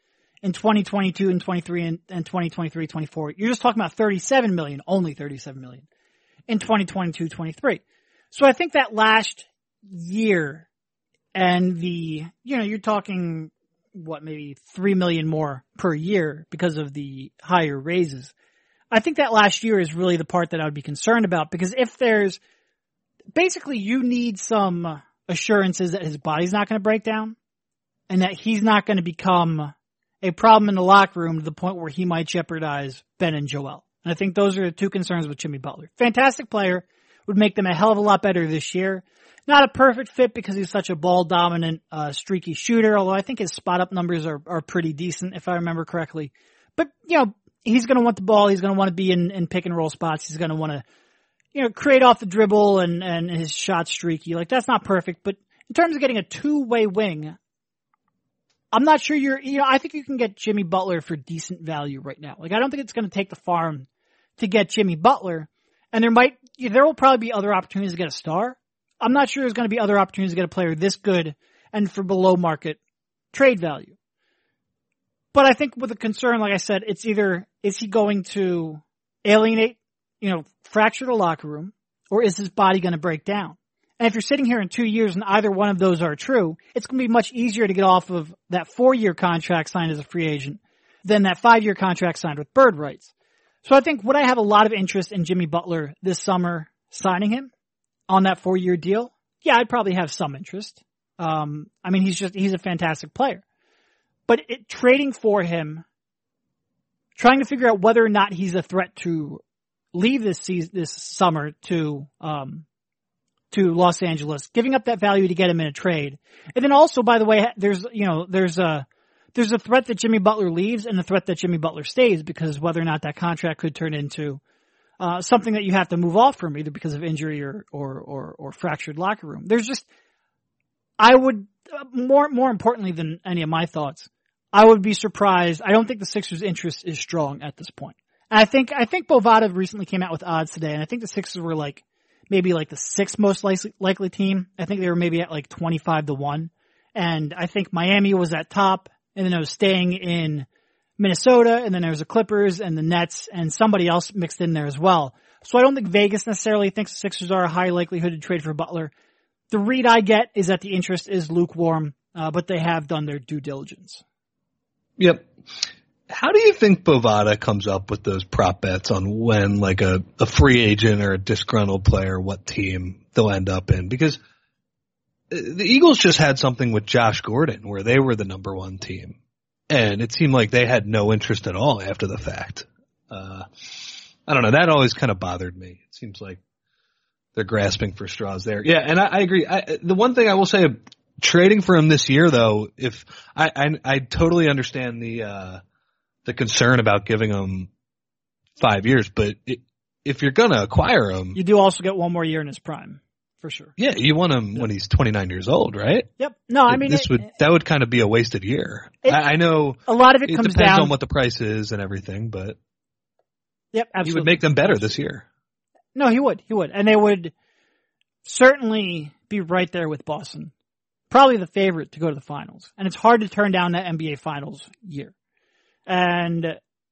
in twenty twenty-two and twenty-three and, and twenty twenty-three twenty-four. You're just talking about thirty-seven million, only thirty-seven million in twenty twenty-two twenty-three. So I think that last year and the, you know, you're talking what, maybe three million more per year because of the higher raises. I think that last year is really the part that I would be concerned about, because if there's basically you need some assurances that his body's not going to break down and that he's not going to become a problem in the locker room to the point where he might jeopardize Ben and Joel. And I think those are the two concerns with Jimmy Butler. Fantastic player, would make them a hell of a lot better this year. Not a perfect fit because he's such a ball-dominant, uh, streaky shooter, although I think his spot-up numbers are, are pretty decent, if I remember correctly. But, you know, he's going to want the ball. He's going to want to be in, in pick-and-roll spots. He's going to want to, you know, create off the dribble and, and his shot streaky. Like, that's not perfect. But in terms of getting a two-way wing, I'm not sure you're, you know, I think you can get Jimmy Butler for decent value right now. Like, I don't think it's going to take the farm to get Jimmy Butler. And there might, there will probably be other opportunities to get a star. I'm not sure there's going to be other opportunities to get a player this good and for below market trade value. But I think with a concern, like I said, it's either, is he going to alienate, you know, fracture the locker room, or is his body going to break down? And if you're sitting here in two years and either one of those are true, it's going to be much easier to get off of that four-year contract signed as a free agent than that five-year contract signed with bird rights. So I think would I have a lot of interest in Jimmy Butler this summer signing him on that four-year deal? Yeah, I'd probably have some interest. Um, I mean, he's just, he's a fantastic player. But it, trading for him, trying to figure out whether or not he's a threat to leave this season, this summer to, um, to Los Angeles, giving up that value to get him in a trade. And then also, by the way, there's, you know, there's a, there's a threat that Jimmy Butler leaves and a threat that Jimmy Butler stays, because whether or not that contract could turn into uh, something that you have to move off from, either because of injury or, or, or, or fractured locker room. There's just, I would, uh, more, more importantly than any of my thoughts, I would be surprised. I don't think the Sixers' interest is strong at this point. And I think, I think Bovada recently came out with odds today, and I think the Sixers were like, maybe like the sixth most likely, likely team. I think they were maybe at like twenty-five to one. And I think Miami was at top, and then I was staying in Minnesota, and then there was the Clippers and the Nets and somebody else mixed in there as well. So I don't think Vegas necessarily thinks the Sixers are a high likelihood to trade for Butler. The read I get is that the interest is lukewarm, uh, but they have done their due diligence. Yep. How do you think Bovada comes up with those prop bets on when, like, a, a free agent or a disgruntled player, what team they'll end up in? Because the Eagles just had something with Josh Gordon where they were the number one team, and it seemed like they had no interest at all after the fact. Uh, I don't know. That always kind of bothered me. It seems like they're grasping for straws there. Yeah, and I, I agree. I, the one thing I will say, trading for him this year, though, if I, I, I totally understand the uh, the concern about giving him five years, but it, if you're gonna acquire him, you do also get one more year in his prime. For sure. Yeah, you want him when he's twenty-nine years old, right? Yep. No, I mean, this it, would that would kind of be a wasted year. It, I, I know a lot of it, it comes depends down on what the price is and everything, but yep, absolutely. He would make them better this year. No, he would. He would, and they would certainly be right there with Boston, probably the favorite to go to the finals. And it's hard to turn down that N B A Finals year, and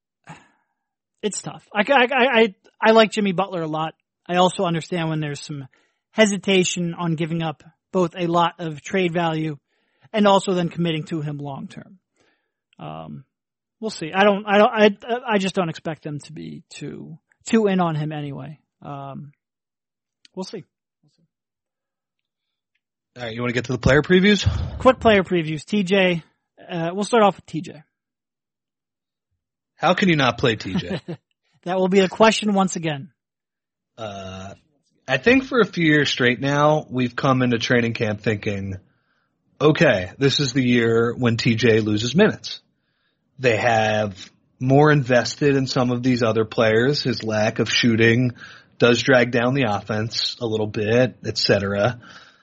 it's tough. I I I, I like Jimmy Butler a lot. I also understand when there's some hesitation on giving up both a lot of trade value and also then committing to him long term. Um, we'll see. I don't, I don't, I, I just don't expect them to be too, too in on him anyway. Um, we'll see. We'll see. All right. You want to get to the player previews? Quick player previews. T J, uh, we'll start off with T J. How can you not play T J? That will be a question once again. Uh, I think for a few years straight now, we've come into training camp thinking, okay, this is the year when T J loses minutes. They have more invested in some of these other players. His lack of shooting does drag down the offense a little bit, et cetera.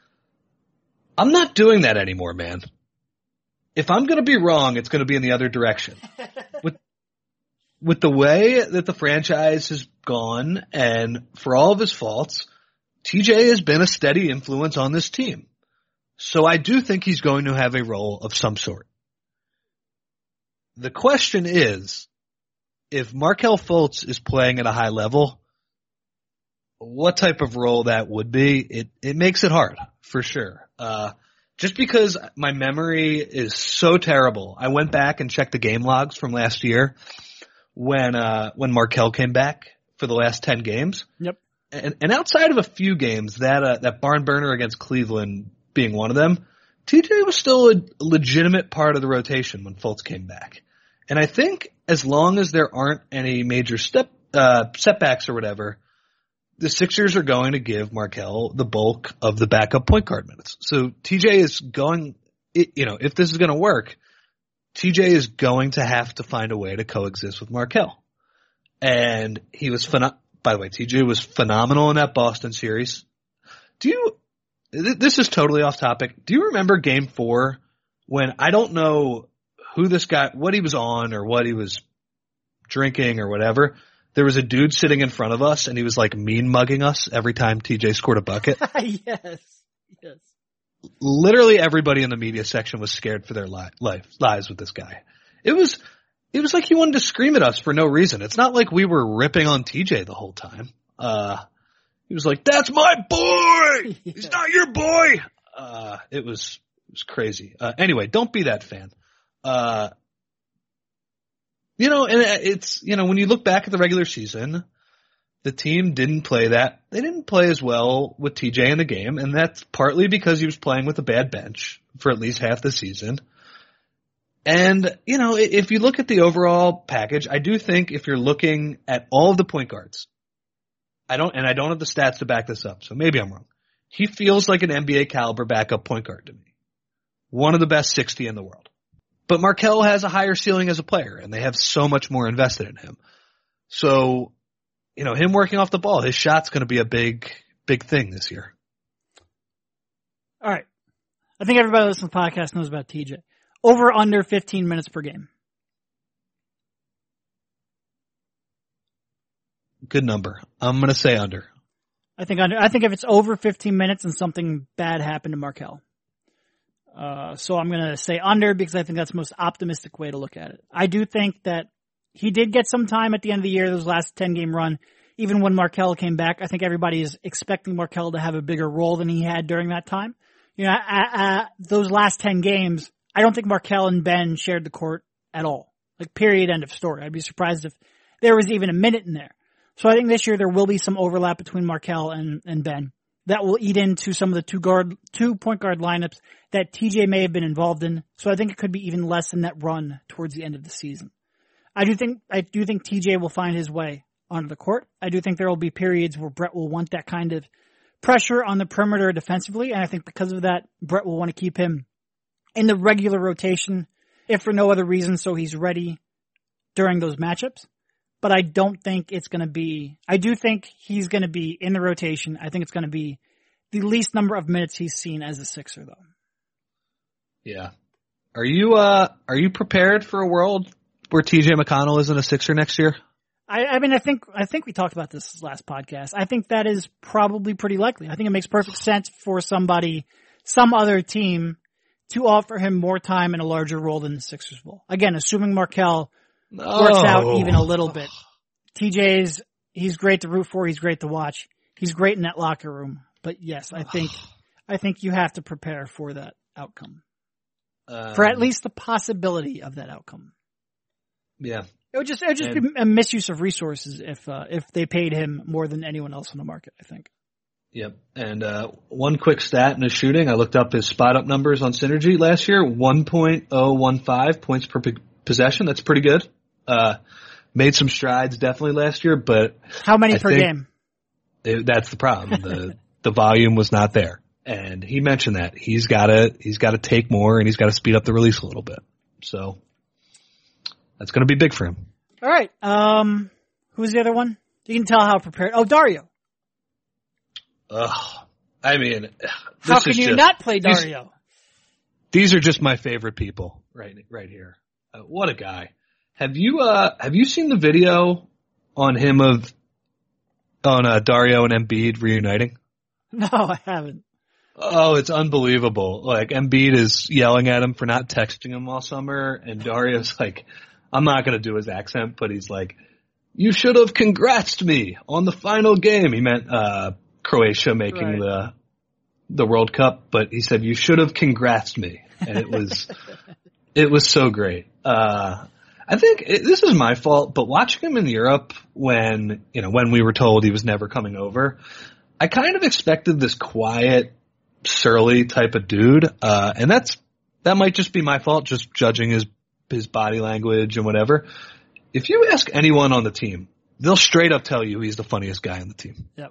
I'm not doing that anymore, man. If I'm going to be wrong, it's going to be in the other direction. With with the way that the franchise has gone, and for all of his faults, T J has been a steady influence on this team. So I do think he's going to have a role of some sort. the question is, if Markelle Fultz is playing at a high level, what type of role that would be, it, it makes it hard, for sure. Uh, just because my memory is so terrible, I went back and checked the game logs from last year when, uh, when Markelle came back for the last ten games. Yep. And, and outside of a few games, that, uh, that barn burner against Cleveland being one of them, T J was still a legitimate part of the rotation when Fultz came back. And I think as long as there aren't any major step, uh, setbacks or whatever, the Sixers are going to give Markelle the bulk of the backup point guard minutes. So T J is going, you know, if this is going to work, T J is going to have to find a way to coexist with Markelle. And he was, phen- by the way, T J was phenomenal in that Boston series. Do you, this is totally off topic. Do you remember game four when I don't know who this guy, what he was on or what he was drinking or whatever? There was a dude sitting in front of us, and he was like mean mugging us every time T J scored a bucket. yes, yes. Literally everybody in the media section was scared for their li- life, lives with this guy. It was, it was like he wanted to scream at us for no reason. It's not like we were ripping on T J the whole time. Uh, he was like, "That's my boy. yeah. He's not your boy." Uh, it was, it was crazy. Uh, anyway, don't be that fan. Uh, You know, and it's, you know, when you look back at the regular season, the team didn't play that. They didn't play as well with T J in the game, and that's partly because he was playing with a bad bench for at least half the season. And, you know, if you look at the overall package, I do think if you're looking at all of the point guards, I don't, and I don't have the stats to back this up, so maybe I'm wrong. He feels like an N B A caliber backup point guard to me. One of the best sixty in the world. But Markelle has a higher ceiling as a player, and they have so much more invested in him. So, you know, him working off the ball, his shot's going to be a big, big thing this year. All right. I think everybody listening to the podcast knows about T J. Over under fifteen minutes per game. Good number. I'm going to say under. I think under. I think if it's over fifteen minutes and something bad happened to Markelle. Uh, so I'm going to say under because I think that's the most optimistic way to look at it. I do think that he did get some time at the end of the year, those last ten game run. Even when Markelle came back, I think everybody is expecting Markelle to have a bigger role than he had during that time. You know, uh, uh, those last ten games, I don't think Markelle and Ben shared the court at all. Like, period, end of story. I'd be surprised if there was even a minute in there. So I think this year there will be some overlap between Markelle and, and Ben. That will eat into some of the two guard, two point guard lineups that T J may have been involved in. So I think it could be even less in that run towards the end of the season. I do think, I do think T J will find his way onto the court. I do think there will be periods where Brett will want that kind of pressure on the perimeter defensively. And I think because of that, Brett will want to keep him in the regular rotation, if for no other reason, so he's ready during those matchups. But I don't think it's going to be, I do think he's going to be in the rotation. I think it's going to be the least number of minutes he's seen as a Sixer, though. Yeah. Are you, uh, are you prepared for a world where T J McConnell isn't a Sixer next year? I, I mean, I think, I think we talked about this last podcast. I think that is probably pretty likely. I think it makes perfect sense for somebody, some other team to offer him more time and a larger role than the Sixers will. Again, assuming Markelle no. works out even a little bit. T J's, he's great to root for. He's great to watch. He's great in that locker room. But yes, I think, I think you have to prepare for that outcome. Um, for at least the possibility of that outcome. Yeah. It would just, it would just and, be a misuse of resources if, uh, if they paid him more than anyone else on the market, I think. Yep. And, uh, one quick stat in his shooting. I looked up his spot up numbers on Synergy last year. one point oh one five points per p- possession. That's pretty good. Uh, made some strides definitely last year, but. How many I per game? It, that's the problem. The, the volume was not there. And he mentioned that he's gotta, he's gotta take more and he's gotta speed up the release a little bit. So that's going to be big for him. All right. Um, who's the other one? You can tell how prepared. Oh, Dario. Ugh. I mean, this how can is you just, not play Dario? These, these are just my favorite people right, right here. Uh, what a guy. Have you, uh, have you seen the video on him of, on, uh, Dario and Embiid reuniting? No, I haven't. Oh, it's unbelievable. Like, Embiid is yelling at him for not texting him all summer, and Dario's like, I'm not going to do his accent, but he's like, you should have congratsed me on the final game. He meant uh Croatia making Right. the the World Cup, but he said, you should have congratsed me. And it was it was so great. Uh I think it, this is my fault, but watching him in Europe when, you know, when we were told he was never coming over, I kind of expected this quiet, surly type of dude, uh, and that's that might just be my fault, just judging his his body language and whatever. If you ask anyone on the team, they'll straight up tell you he's the funniest guy on the team. Yep.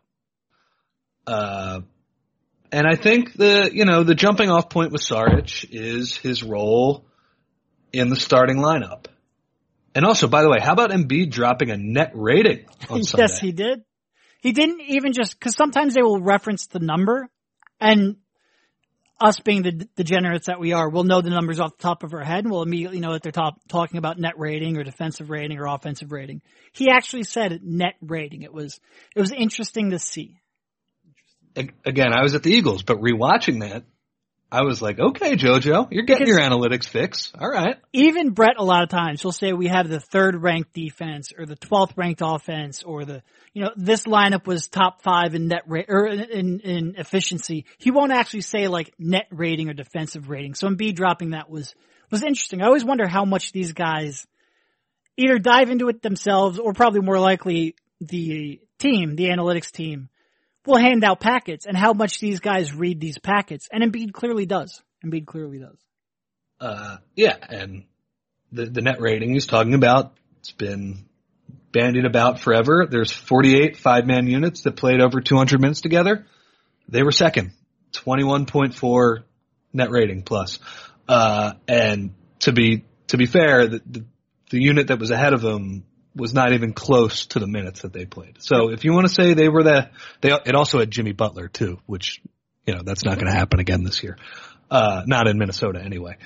Uh, and I think the you know the jumping off point with Saric is his role in the starting lineup. And also, by the way, how about Embiid dropping a net rating on Sunday? Yes, he did. He didn't even just, cause sometimes they will reference the number, and us being the degenerates that we are, we'll know the numbers off the top of our head, and we'll immediately know that they're top, talking about net rating or defensive rating or offensive rating. He actually said net rating. It was, it was interesting to see. Again, I was at the Eagles, but rewatching that, I was like, okay, JoJo, you're getting Because your analytics fix. All right. Even Brett, a lot of times, he'll say we have the third ranked defense or the twelfth ranked offense, or the, you know, this lineup was top five in net rate or in, in efficiency. He won't actually say like net rating or defensive rating. So Embiid dropping that was, was interesting. I always wonder how much these guys either dive into it themselves, or probably more likely the team, the analytics team, will hand out packets, and how much these guys read these packets. And Embiid clearly does. Embiid clearly does. Uh, yeah, and the, the net rating he's talking about, it's been bandied about forever. There's forty-eight five-man units that played over two hundred minutes together. They were second, twenty-one point four net rating plus. Uh, and to be, to be fair, the, the, the unit that was ahead of them was not even close to the minutes that they played. So if you want to say they were the, they, it also had Jimmy Butler too, which, you know, that's not going to happen again this year. Uh, not in Minnesota anyway.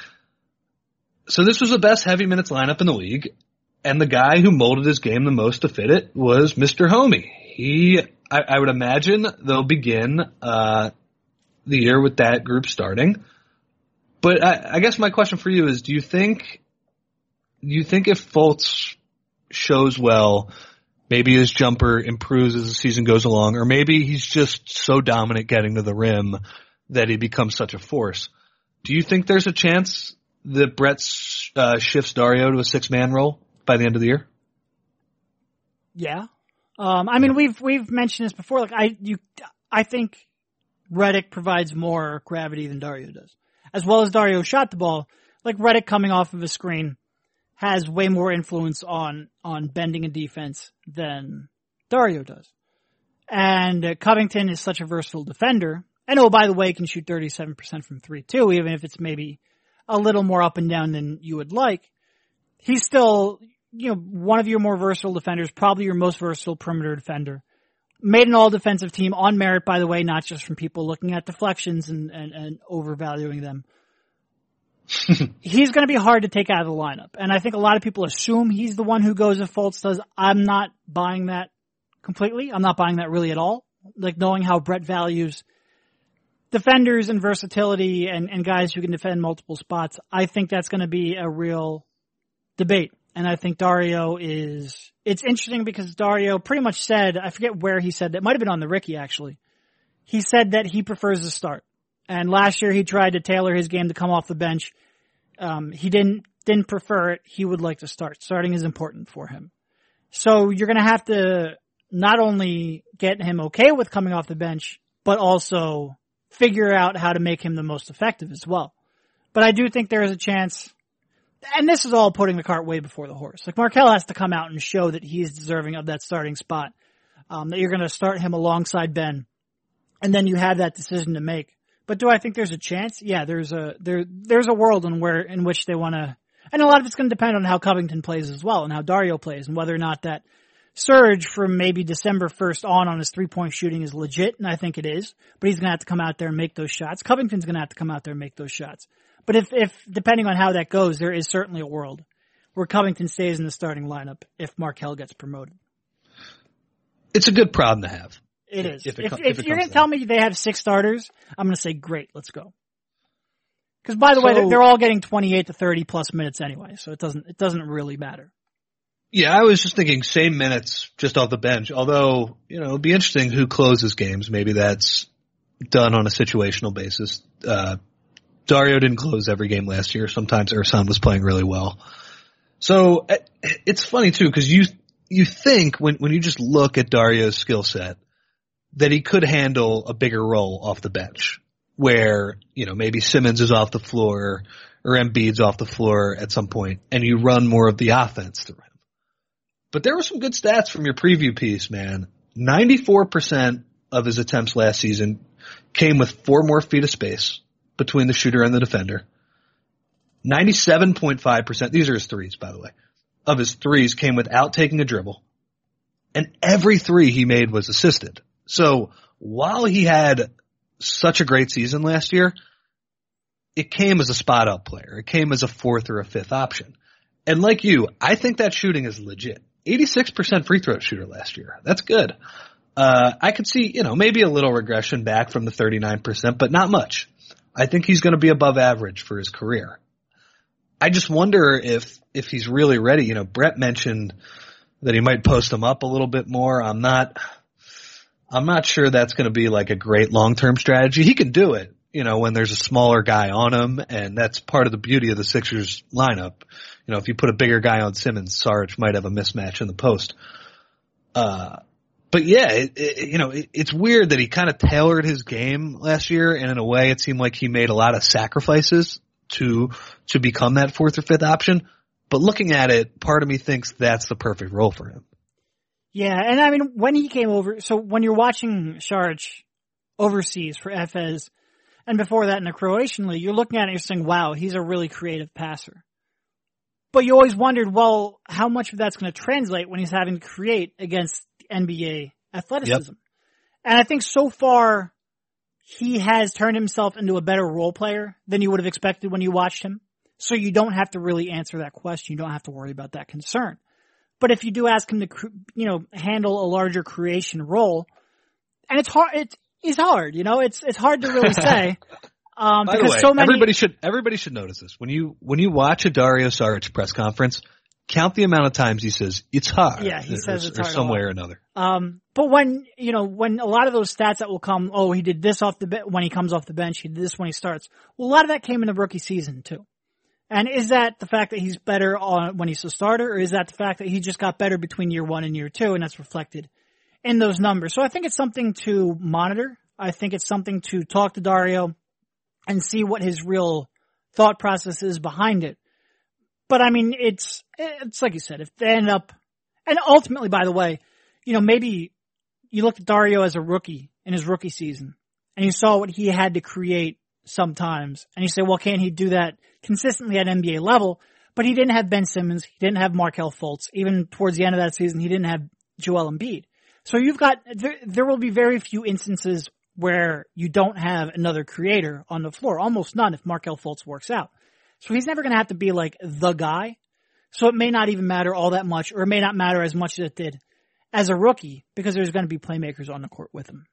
So this was the best heavy minutes lineup in the league, and the guy who molded his game the most to fit it was Mister Homie. He, I, I would imagine they'll begin, uh, the year with that group starting. But I, I guess my question for you is, do you think, do you think if Fultz shows well, maybe his jumper improves as the season goes along, or maybe he's just so dominant getting to the rim that he becomes such a force? Do you think there's a chance that Brett uh, shifts Dario to a six-man role by the end of the year? Yeah. Um, I mean, we've, we've mentioned this before. Like, I, you, I think Redick provides more gravity than Dario does. As well as Dario shot the ball, like Redick coming off of a screen has way more influence on, on bending a defense than Dario does. And uh, Covington is such a versatile defender. And oh, by the way, can shoot thirty-seven percent from three too, even if it's maybe a little more up and down than you would like. He's still, you know, one of your more versatile defenders, probably your most versatile perimeter defender. Made an all-defensive team on merit, by the way, not just from people looking at deflections and, and, and overvaluing them. He's going to be hard to take out of the lineup. And I think a lot of people assume he's the one who goes if Fultz does. I'm not buying that completely. I'm not buying that really at all. Like, knowing how Brett values defenders and versatility and, and guys who can defend multiple spots, I think that's going to be a real debate. And I think Dario is, it's interesting because Dario pretty much said, I forget where he said that, might have been on the Ricky actually. He said that he prefers to start. And last year he tried to tailor his game to come off the bench. Um, he didn't, didn't prefer it. He would like to start. Starting is important for him. So you're going to have to not only get him okay with coming off the bench, but also figure out how to make him the most effective as well. But I do think there is a chance, and this is all putting the cart way before the horse. Like, Markelle has to come out and show that he's deserving of that starting spot, um, that you're going to start him alongside Ben, and then you have that decision to make. But do I think there's a chance? Yeah, there's a there there's a world in where in which they want to, and a lot of it's going to depend on how Covington plays as well, and how Dario plays, and whether or not that surge from maybe December first on on his three-point shooting is legit, and I think it is. But he's going to have to come out there and make those shots. Covington's going to have to come out there and make those shots. But if, if, depending on how that goes, there is certainly a world where Covington stays in the starting lineup if Markelle gets promoted. It's a good problem to have. It is. If, it, if, if, if it you're going to tell me they have six starters, I'm going to say great, let's go. Because by the so, way, they're, they're all getting twenty-eight to thirty plus minutes anyway, so it doesn't it doesn't really matter. Yeah, I was just thinking same minutes just off the bench. Although, you know, it'd be interesting who closes games. Maybe that's done on a situational basis. Uh, Dario didn't close every game last year. Sometimes Ersan was playing really well. So it's funny too, because you you think when when you just look at Dario's skill set that he could handle a bigger role off the bench, where you know maybe Simmons is off the floor or Embiid's off the floor at some point, and you run more of the offense through him. But there were some good stats from your preview piece, man. ninety-four percent of his attempts last season came with four more feet of space between the shooter and the defender. ninety-seven point five percent, these are his threes, by the way, of his threes came without taking a dribble. And every three he made was assisted. So while he had such a great season last year, it came as a spot-up player. It came as a fourth or a fifth option. And like you, I think that shooting is legit. eighty-six percent free throw shooter last year. That's good. Uh, I could see, you know, maybe a little regression back from the thirty-nine percent, but not much. I think he's going to be above average for his career. I just wonder if, if he's really ready. You know, Brett mentioned that he might post him up a little bit more. I'm not, I'm not sure that's going to be like a great long-term strategy. He can do it, you know, when there's a smaller guy on him, and that's part of the beauty of the Sixers lineup. You know, if you put a bigger guy on Simmons, Sarge might have a mismatch in the post. Uh, but yeah, it, it, you know, it, it's weird that he kind of tailored his game last year, and in a way it seemed like he made a lot of sacrifices to, to become that fourth or fifth option. But looking at it, part of me thinks that's the perfect role for him. Yeah, and I mean, when he came over, so when you're watching Saric overseas for Efes, and before that in the Croatian league, you're looking at it and you're saying, wow, he's a really creative passer. But you always wondered, well, how much of that's going to translate when he's having to create against N B A athleticism? Yep. And I think so far, he has turned himself into a better role player than you would have expected when you watched him. So you don't have to really answer that question. You don't have to worry about that concern. But if you do ask him to, you know, handle a larger creation role, and it's hard, it is hard, you know, it's, it's hard to really say. Um, By because the way, so many, everybody should, everybody should notice this. When you, when you watch a Dario Saric press conference, count the amount of times he says, it's hard. Yeah, he or, says it's or hard. some way or another. Um, but when, you know, when a lot of those stats that will come, oh, he did this off the bench, when he comes off the bench, he did this when he starts. Well, a lot of that came in the rookie season too. And is that the fact that he's better on when he's a starter, or is that the fact that he just got better between year one and year two, and that's reflected in those numbers? So I think it's something to monitor. I think it's something to talk to Dario and see what his real thought process is behind it. But I mean, it's, it's like you said, if they end up, and ultimately, by the way, you know, maybe you looked at Dario as a rookie in his rookie season, and you saw what he had to create sometimes, and you say, well, can't he do that consistently at N B A level? But he didn't have Ben Simmons, he didn't have Markelle Fultz. Even towards the end of that season, he didn't have Joel Embiid. So you've got, there, there will be very few instances where you don't have another creator on the floor. Almost none if Markelle Fultz works out. So he's never going to have to be like the guy. So it may not even matter all that much, or it may not matter as much as it did as a rookie, because there's going to be playmakers on the court with him.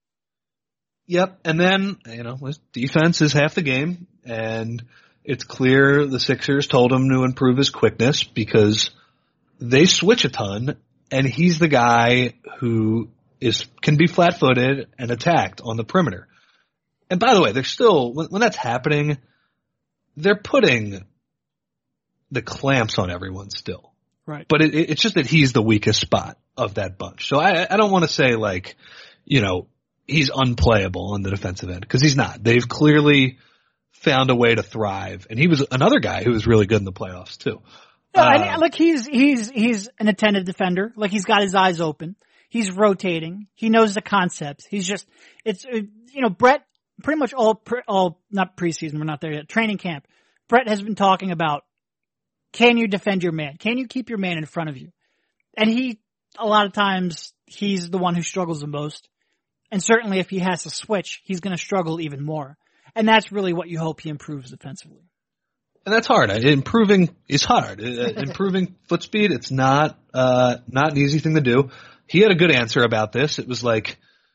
Yep, and then, you know, defense is half the game, and it's clear the Sixers told him to improve his quickness because they switch a ton, and he's the guy who is can be flat-footed and attacked on the perimeter. And by the way, they're still, when, when that's happening, they're putting the clamps on everyone still. Right. But it, it's just that he's the weakest spot of that bunch. So I, I don't want to say like, you know, he's unplayable on the defensive end, because he's not. They've clearly found a way to thrive, and he was another guy who was really good in the playoffs too. No, uh, and like he's he's he's an attentive defender. Like he's got his eyes open. He's rotating. He knows the concepts. He's just it's you know Brett pretty much all pre, all not preseason. We're not there yet. Training camp. Brett has been talking about, can you defend your man? Can you keep your man in front of you? And he a lot of times he's the one who struggles the most. And certainly if he has to switch, he's going to struggle even more. And that's really what you hope he improves defensively. And that's hard. Improving is hard. Improving foot speed, it's not, uh, not an easy thing to do. He had a good answer about this. It was like,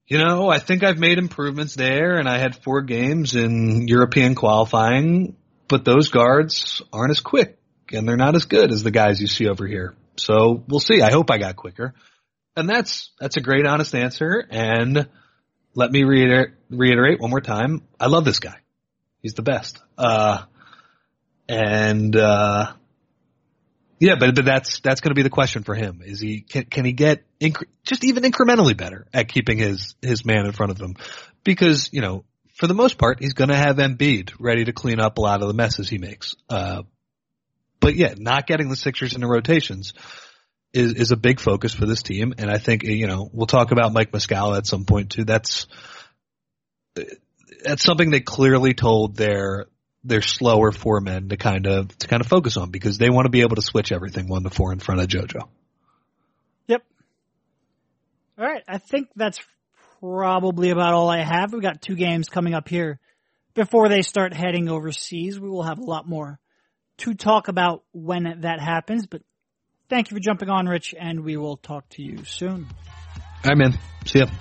you know, I think I've made improvements there, and I had four games in European qualifying, but those guards aren't as quick, and they're not as good as the guys you see over here. So we'll see. I hope I got quicker. And that's that's a great, honest answer, and let me reiter- reiterate one more time. I love this guy. He's the best. Uh, and, uh, yeah, but, but that's, that's going to be the question for him. Is he, can, can he get inc- just even incrementally better at keeping his, his man in front of him? Because, you know, for the most part, he's going to have Embiid ready to clean up a lot of the messes he makes. Uh, but yeah, not getting the Sixers into rotations is, is a big focus for this team. And I think, you know, we'll talk about Mike Muscala at some point too. That's, that's something they clearly told their, their slower four men to kind of, to kind of focus on, because they want to be able to switch everything one to four in front of JoJo. Yep. All right. I think that's probably about all I have. We've got two games coming up here before they start heading overseas. We will have a lot more to talk about when that happens, but thank you for jumping on, Rich, and we will talk to you soon. All right, man. See ya.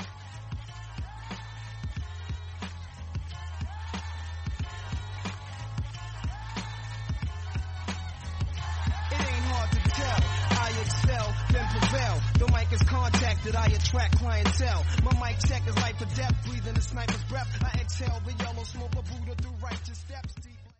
Contacted, I attract clientele. My mic check is life or death, breathing a sniper's breath. I exhale the yellow smoke, a Buddha through righteous steps.